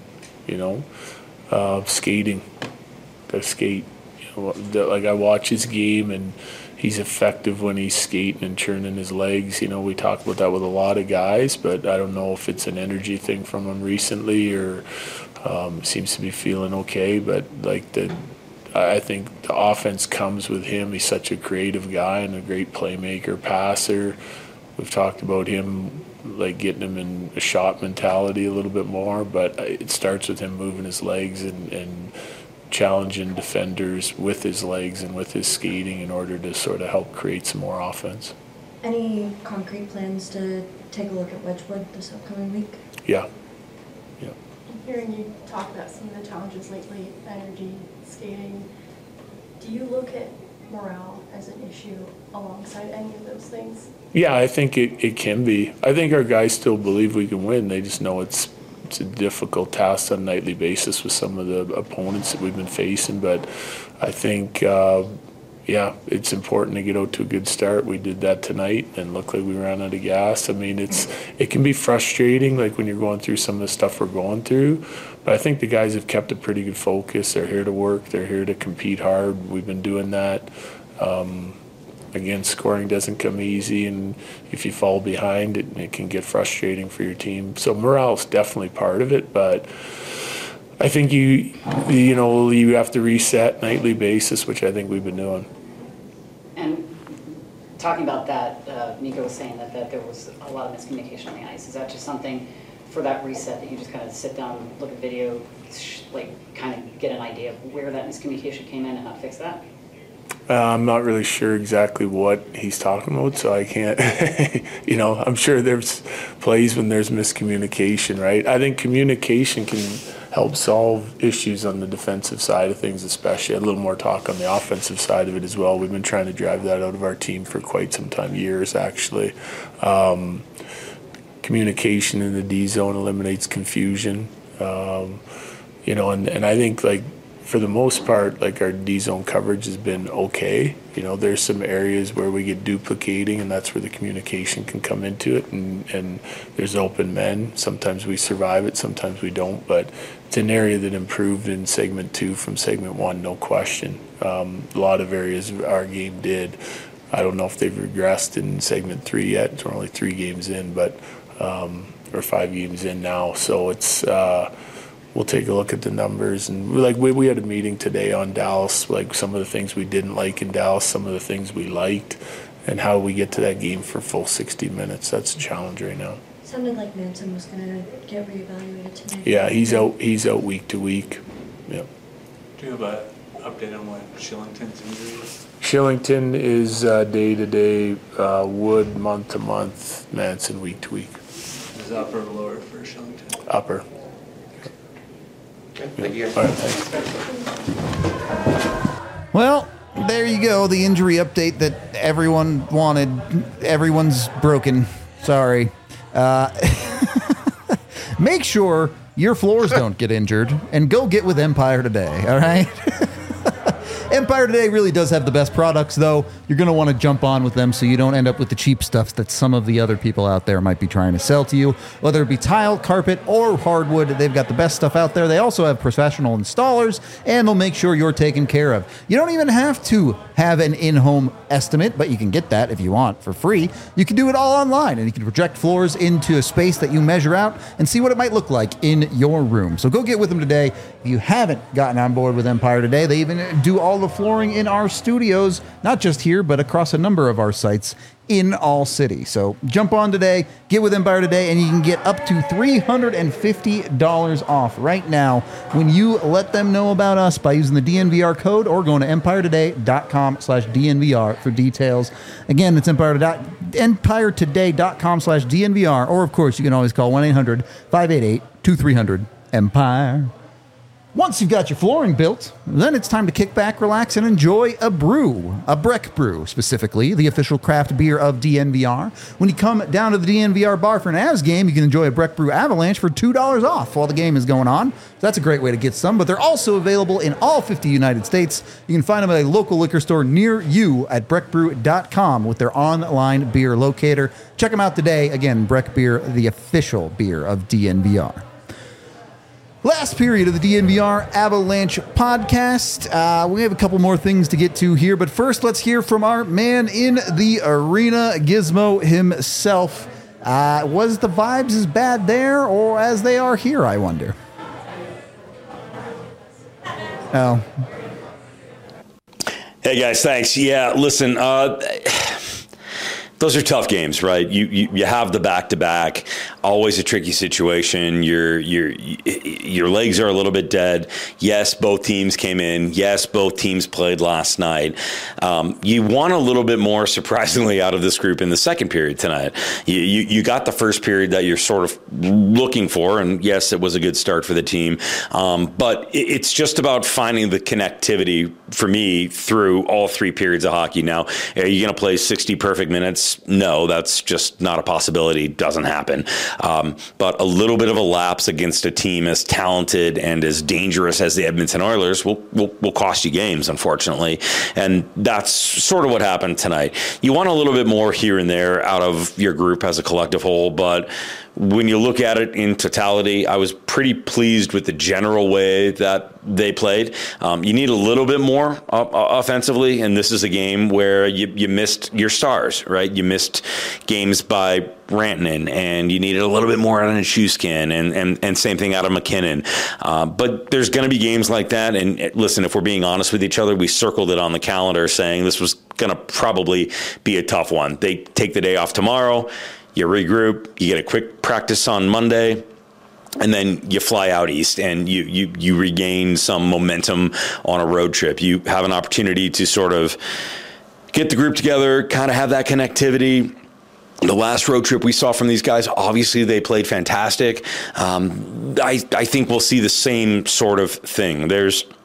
G: skating. Got to skate. I watch his game, and he's effective when he's skating and churning his legs. We talk about that with a lot of guys, but I don't know if it's an energy thing from him recently or seems to be feeling okay. But I think the offense comes with him. He's such a creative guy and a great playmaker, passer. We've talked about him, getting him in a shot mentality a little bit more, but it starts with him moving his legs and challenging defenders with his legs and with his skating in order to sort of help create some more offense.
J: Any concrete plans to take a look at Wedgwood this upcoming week?
G: Yeah.
K: Hearing you talk about some of the challenges lately, energy, skating, do you look at morale as an issue alongside any of those things? Yeah,
G: I think it can be. I think our guys still believe we can win. They just know it's a difficult task on a nightly basis with some of the opponents that we've been facing. But I think, it's important to get out to a good start. We did that tonight and looked like we ran out of gas. It can be frustrating, when you're going through some of the stuff we're going through. But I think the guys have kept a pretty good focus. They're here to work. They're here to compete hard. We've been doing that. Again, scoring doesn't come easy, and if you fall behind, it can get frustrating for your team. So morale is definitely part of it, but I think you have to reset nightly basis, which I think we've been doing.
L: And talking about that, Nico was saying that there was a lot of miscommunication on the ice. Is that just something for that reset that you just kind of sit down, look at video, kind of get an idea of where that miscommunication came in and how to fix that?
G: I'm not really sure exactly what he's talking about, so I can't, I'm sure there's plays when there's miscommunication, right? I think communication can help solve issues on the defensive side of things, especially. A little more talk on the offensive side of it as well. We've been trying to drive that out of our team for quite some time, years actually. Communication in the D zone eliminates confusion, and I think for the most part, like our D-zone coverage has been okay. There's some areas where we get duplicating, and that's where the communication can come into it, and there's open men. Sometimes we survive it, sometimes we don't, but it's an area that improved in segment 2 from segment 1, no question. A lot of areas our game did. I don't know if they've regressed in segment 3 yet. We're only 3 games in, but or 5 games in now. So it's we'll take a look at the numbers, and we had a meeting today on Dallas, like some of the things we didn't like in Dallas, some of the things we liked, and how we get to that game for full 60 minutes. That's a challenge right now.
J: Sounded like Manson was going to get reevaluated tonight.
G: Yeah, he's out week to week. Yep.
F: Do you have an update on what Shillington's injury is?
G: Shillington is day to day, Wood month to month, Manson week to week.
F: Is upper or lower for Shillington?
G: Upper.
D: Okay, thank you guys.
G: All right, thanks.
A: Well, there you go. The injury update that everyone wanted. Everyone's broken. Sorry. Make sure your floors don't get injured, and go get with Empire today, all right? Empire Today really does have the best products, though. You're going to want to jump on with them so you don't end up with the cheap stuff that some of the other people out there might be trying to sell to you. Whether it be tile, carpet, or hardwood, they've got the best stuff out there. They also have professional installers, and they'll make sure you're taken care of. You don't even have to have an in-home estimate, but you can get that if you want for free. You can do it all online, and you can project floors into a space that you measure out and see what it might look like in your room. So go get with them today. If you haven't gotten on board with Empire Today, they even do all the flooring in our studios, not just here, but across a number of our sites in all cities. So jump on today, get with Empire Today, and you can get up to $350 off right now when you let them know about us by using the DNVR code or going to empiretoday.com/DNVR for details. Again, it's empiretoday.com/DNVR, or of course, you can always call 1-800-588-2300-EMPIRE. Once you've got your flooring built, then it's time to kick back, relax, and enjoy a brew. A Breck Brew, specifically, the official craft beer of DNVR. When you come down to the DNVR bar for an Avs game, you can enjoy a Breck Brew Avalanche for $2 off while the game is going on. So that's a great way to get some, but they're also available in all 50 United States. You can find them at a local liquor store near you at breckbrew.com with their online beer locator. Check them out today. Again, Breck Beer, the official beer of DNVR. Last period of the DNVR Avalanche podcast. We have a couple more things to get to here, but first let's hear from our man in the arena, Gizmo himself. Was the vibes as bad there or as they are here, I wonder? Oh.
M: Hey guys, thanks. Yeah, listen, those are tough games, right? You have the back-to-back, always a tricky situation. Your legs are a little bit dead. Yes, both teams came in. Yes, both teams played last night. You want a little bit more, surprisingly, out of this group in the second period tonight. You got the first period that you're sort of looking for, and yes, it was a good start for the team. But it's just about finding the connectivity for me through all 3 periods of hockey. Now, are you going to play 60 perfect minutes? No, that's just not a possibility. Doesn't happen. But a little bit of a lapse against a team as talented and as dangerous as the Edmonton Oilers will cost you games, unfortunately. And that's sort of what happened tonight. You want a little bit more here and there out of your group as a collective whole, but when you look at it in totality, I was pretty pleased with the general way that they played. You need a little bit more offensively, and this is a game where you missed your stars, right? You missed games by Rantanen, and you needed a little bit more out of Nichushkin, and same thing out of McKinnon. But there's going to be games like that, and listen, if we're being honest with each other, we circled it on the calendar saying this was going to probably be a tough one. They take the day off tomorrow. You regroup, you get a quick practice on Monday, and then you fly out east and you regain some momentum on a road trip. You have an opportunity to sort of get the group together, kind of have that connectivity. The last road trip we saw from these guys, obviously they played fantastic. I think we'll see the same sort of thing. There's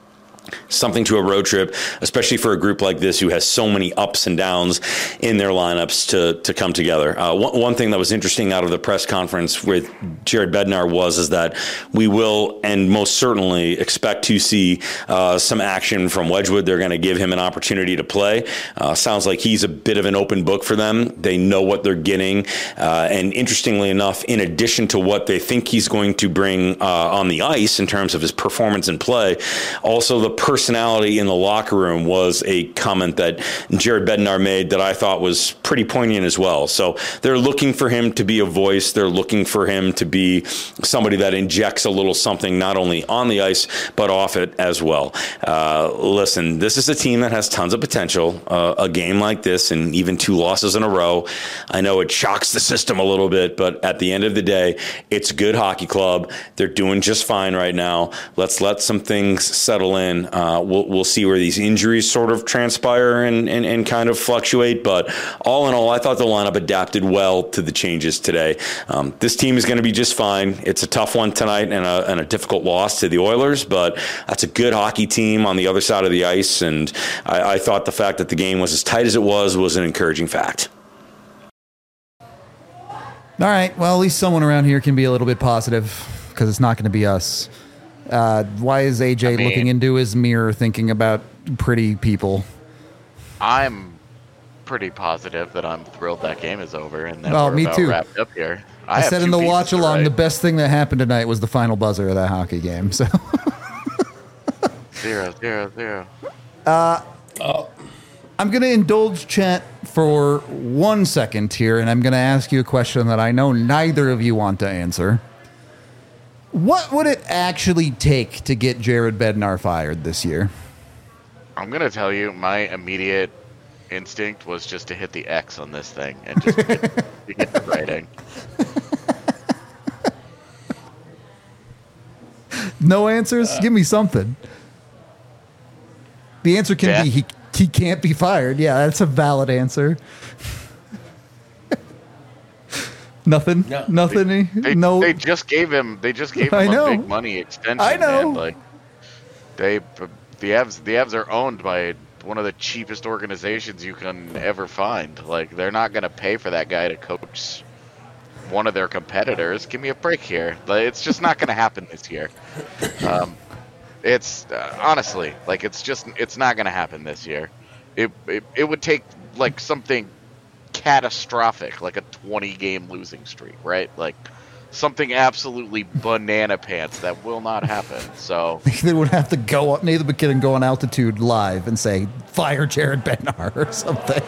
M: something to a road trip, especially for a group like this who has so many ups and downs in their lineups to come together. One thing that was interesting out of the press conference with Jared Bednar is that we will and most certainly expect to see some action from Wedgwood. They're going to give him an opportunity to play. Sounds like he's a bit of an open book for them. They know what they're getting. And interestingly enough, in addition to what they think he's going to bring on the ice in terms of his performance and play, also the personality in the locker room was a comment that Jared Bednar made that I thought was pretty poignant as well. So they're looking for him to be a voice. They're looking for him to be somebody that injects a little something not only on the ice but off it as well. Listen, this is a team that has tons of potential. A game like this and even 2 losses in a row, I know it shocks the system a little bit, but at the end of the day, it's a good hockey club. They're doing just fine right now. Let's let some things settle in. We'll see where these injuries sort of transpire and kind of fluctuate. But all in all, I thought the lineup adapted well to the changes today. This team is going to be just fine. It's a tough one tonight and a difficult loss to the Oilers, but that's a good hockey team on the other side of the ice. And I thought the fact that the game was as tight as it was an encouraging fact.
A: All right. Well, at least someone around here can be a little bit positive because it's not going to be us. Why is AJ looking into his mirror thinking about pretty people?
B: I'm pretty positive that I'm thrilled that game is over and that
A: well,
B: we're
A: me
B: about
A: too.
B: wrapped up here.
A: I said in the watch along, the best thing that happened tonight was the final buzzer of that hockey game. So
B: 0-0-0.
A: I'm going to indulge chat for 1 second here, and I'm going to ask you a question that I know neither of you want to answer. What would it actually take to get Jared Bednar fired this year?
B: I'm going to tell you, my immediate instinct was just to hit the X on this thing and just get the writing.
A: No answers? Give me something. The answer can be he can't be fired. Yeah, that's a valid answer. Nothing. No. Nothing.
B: They just gave him. They just gave him a big money extension.
A: I know.
B: Man. Like the Avs are owned by one of the cheapest organizations you can ever find. Like they're not going to pay for that guy to coach one of their competitors. Give me a break here. Like, it's just not going to happen this year. It's honestly like it's not going to happen this year. It would take like something catastrophic, like a 20-game losing streak, right? Like something absolutely banana pants that will not happen. So
A: they would have to go up, Nathan McKinnon go on Altitude Live and say, fire Jared Bednar or something.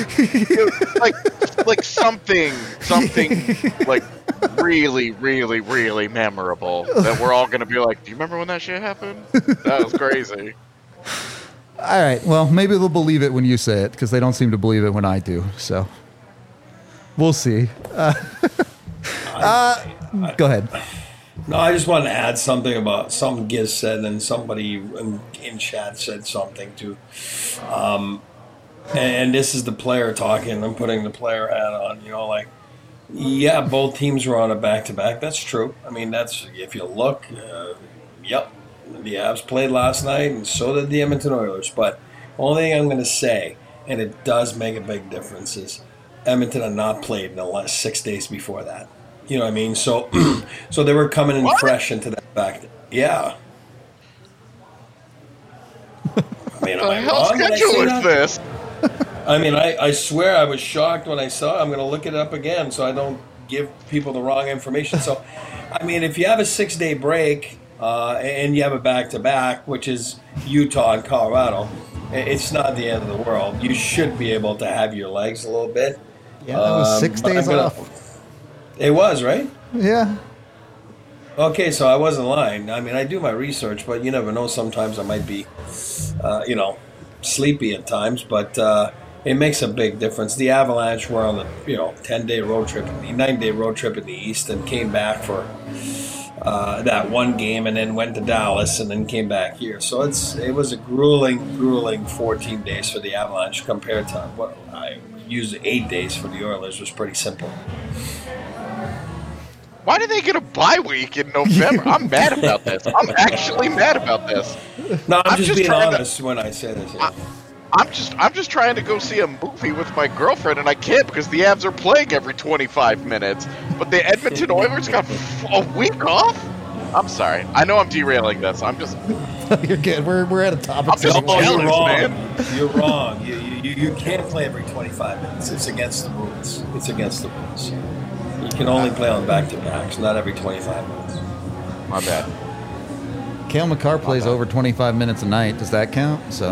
B: like something like really, really, really memorable that we're all going to be like, do you remember when that shit happened? That was crazy.
A: All right. Well, maybe they'll believe it when you say it because they don't seem to believe it when I do. So we'll see. Go ahead.
D: No, I just wanted to add something about something Giz said, and somebody in chat said something too. And this is the player talking. I'm putting the player hat on. You know, like, yeah, both teams were on a back-to-back. That's true. I mean, that's if you look. Yep, the Avs played last night, and so did the Edmonton Oilers. But only thing I'm going to say, and it does make a big difference, is Edmonton had not played in the last 6 days before that. You know what I mean? So so they were coming in fresh into that back. Yeah. I mean, am I wrong when I say that? This? I mean, I swear I was shocked when I saw it. I'm going to look it up again so I don't give people the wrong information. So, I mean, if you have a 6-day break and you have a back-to-back, which is Utah and Colorado, it's not the end of the world. You should be able to have your legs a little bit.
A: Yeah, that was 6 days off.
D: It was, right?
A: Yeah.
D: Okay, so I wasn't lying. I mean, I do my research, but you never know. Sometimes I might be, sleepy at times, but it makes a big difference. The Avalanche were on the 10-day road trip, 9-day road trip in the East, and came back for that one game, and then went to Dallas, and then came back here. So it was a grueling 14 days for the Avalanche compared to what I used 8 days for the Oilers. Was pretty simple.
B: Why do they get a bye week in November? I'm mad about this. I'm actually mad about this.
D: No, I'm just being honest when I say this.
B: I'm just trying to go see a movie with my girlfriend, and I can't because the Avs are playing every 25 minutes. But the Edmonton Oilers got a week off? I'm sorry. I know I'm derailing this. I'm just...
A: You're good. We're at a topic.
B: I'm just jealous,
D: you're wrong.
B: man.
D: You're wrong. You can't play every 25 minutes. It's against the rules. It's against the rules. You can only play on back-to-backs, not every 25 minutes.
B: My bad.
A: Cale Makar plays over 25 minutes a night. Does that count? So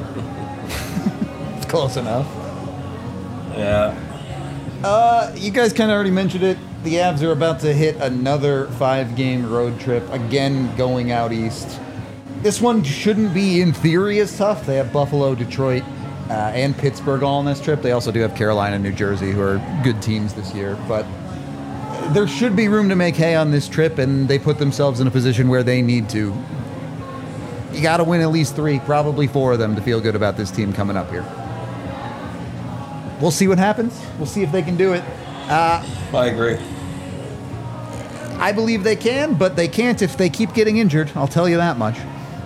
A: it's close enough.
D: Yeah.
A: You guys kind of already mentioned it. The Avs are about to hit another 5-game road trip, again going out east. This one shouldn't be, in theory, as tough. They have Buffalo, Detroit, and Pittsburgh all on this trip. They also do have Carolina and New Jersey, who are good teams this year. But there should be room to make hay on this trip, and they put themselves in a position where they need to. You got to win at least 3, probably 4 of them to feel good about this team coming up here. We'll see what happens. We'll see if they can do it.
D: I agree.
A: I believe they can, but they can't if they keep getting injured. I'll tell you that much.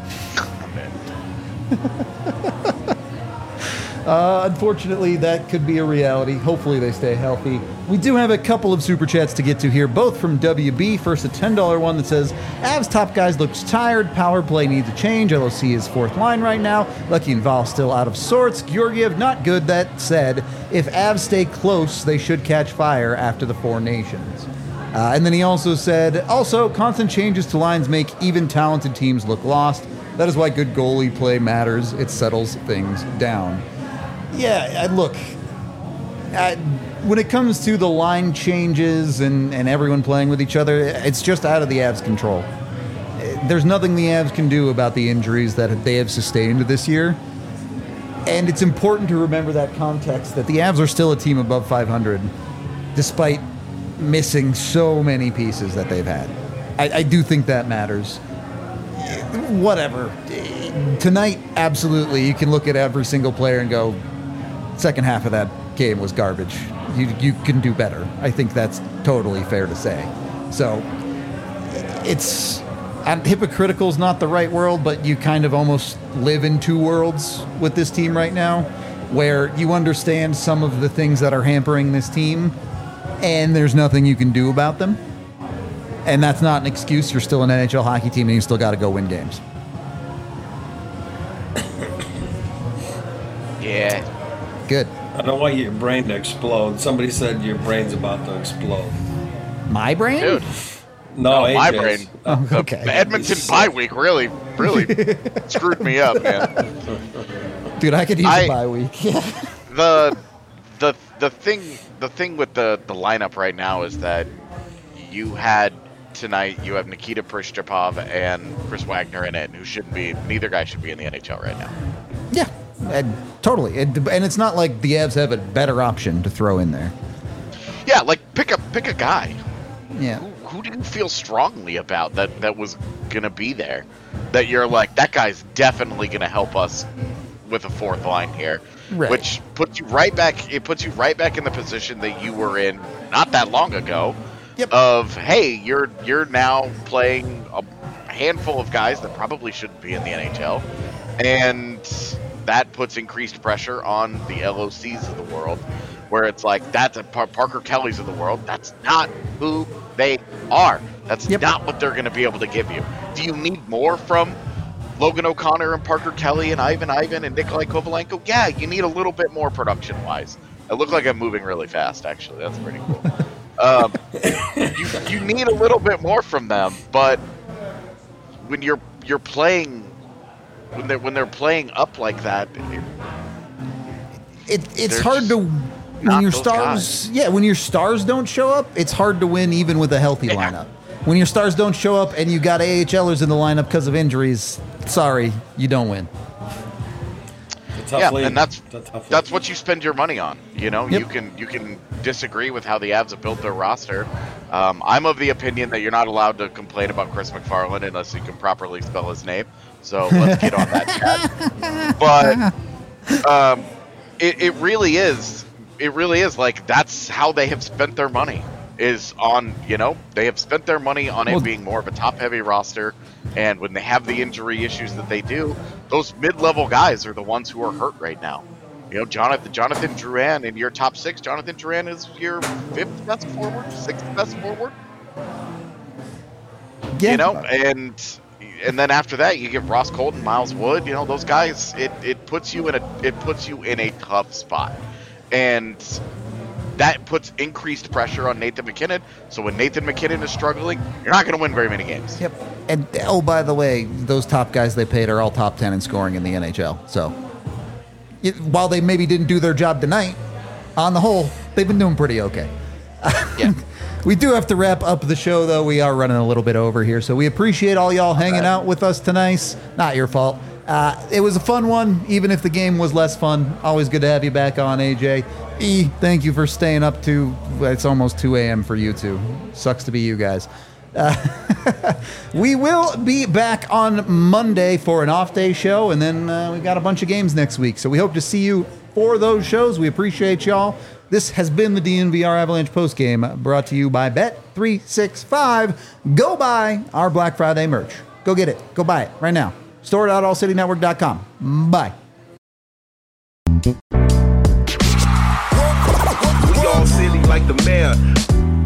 A: Unfortunately, that could be a reality. Hopefully they stay healthy. We do have a couple of super chats to get to here, both from WB. First, a $10 one that says, Avs top guys looks tired. Power play needs a change. LOC is 4th line right now. Lucky and Val still out of sorts. Georgiev, not good. That said, if Avs stay close, they should catch fire after the 4 nations. And then he also said, constant changes to lines make even talented teams look lost. That is why good goalie play matters. It settles things down. Yeah, look, when it comes to the line changes and everyone playing with each other, it's just out of the Avs' control. There's nothing the Avs can do about the injuries that they have sustained this year. And it's important to remember that context, that the Avs are still a team above 500, despite missing so many pieces that they've had. I do think that matters. Whatever. Tonight, absolutely, you can look at every single player and go, second half of that game was garbage. You can do better. I think that's totally fair to say. So, it's... hypocritical is not the right word, but you kind of almost live in 2 worlds with this team right now, where you understand some of the things that are hampering this team, and there's nothing you can do about them. And that's not an excuse. You're still an NHL hockey team, and you still got to go win games.
B: Yeah.
A: Good.
D: I don't want your brain to explode. Somebody said your brain's about to explode.
A: My brain?
B: Dude.
D: No,
B: my brain.
A: Okay.
B: The Edmonton bye week really screwed me up, man.
A: Dude, I could use a bye week.
B: The thing with the lineup right now is that you have Nikita Prishchapov and Chris Wagner in it, who shouldn't be. Neither guy should be in the NHL right now.
A: Yeah, totally. And it's not like the Avs have a better option to throw in there.
B: Yeah, like pick a guy.
A: Yeah.
B: Who do you feel strongly about that was gonna be there? That you're like, that guy's definitely gonna help us with a 4th line here.
A: Right.
B: Which puts you right back. It puts you right back in the position that you were in not that long ago.
A: Yep.
B: Of hey, you're now playing a handful of guys that probably shouldn't be in the NHL, and that puts increased pressure on the LOCs of the world, where it's like that's a Parker Kelly's of the world. That's not who they are. That's not what they're going to be able to give you. Do you need more from Logan O'Connor and Parker Kelly and Ivan and Nikolai Kovalenko? Yeah, you need a little bit more production-wise. I look like I'm moving really fast, actually. That's pretty cool. You need a little bit more from them, but when you're playing, when they're playing up like that,
A: it's hard to when your stars. Yeah, when your stars don't show up, it's hard to win even with a healthy lineup. When your stars don't show up and you got AHLers in the lineup because of injuries, sorry, you don't win.
B: And that's what you spend your money on. You know, you can disagree with how the Avs have built their roster. I'm of the opinion that you're not allowed to complain about Chris McFarland unless you can properly spell his name. So let's get on that chat. But it really is like that's how they have spent their money. is on, they have spent their money on it being more of a top-heavy roster, and when they have the injury issues that they do, those mid-level guys are the ones who are hurt right now. Jonathan Drouin in your top 6. Jonathan Drouin is your 5th best forward, 6th best forward.
A: Yeah.
B: And then after that, you get Ross Colton, Miles Wood. Those guys. It puts you in a tough spot, and that puts increased pressure on Nathan MacKinnon. So when Nathan MacKinnon is struggling, you're not going to win very many games.
A: Yep. And by the way, those top guys they paid are all top 10 in scoring in the NHL. So while they maybe didn't do their job tonight, on the whole, they've been doing pretty okay.
B: Yeah.
A: We do have to wrap up the show, though. We are running a little bit over here. So we appreciate all y'all hanging out with us tonight. Not your fault. It was a fun one, even if the game was less fun. Always good to have you back on, AJ. E, thank you for staying up to, it's almost 2 a.m. for you two. Sucks to be you guys. We will be back on Monday for an off-day show, and then we got a bunch of games next week. So we hope to see you for those shows. We appreciate y'all. This has been the DNVR Avalanche postgame, brought to you by Bet365. Go buy our Black Friday merch. Go get it. Go buy it right now. Store.allcitynetwork.com. Bye.
N: We all silly like the mayor.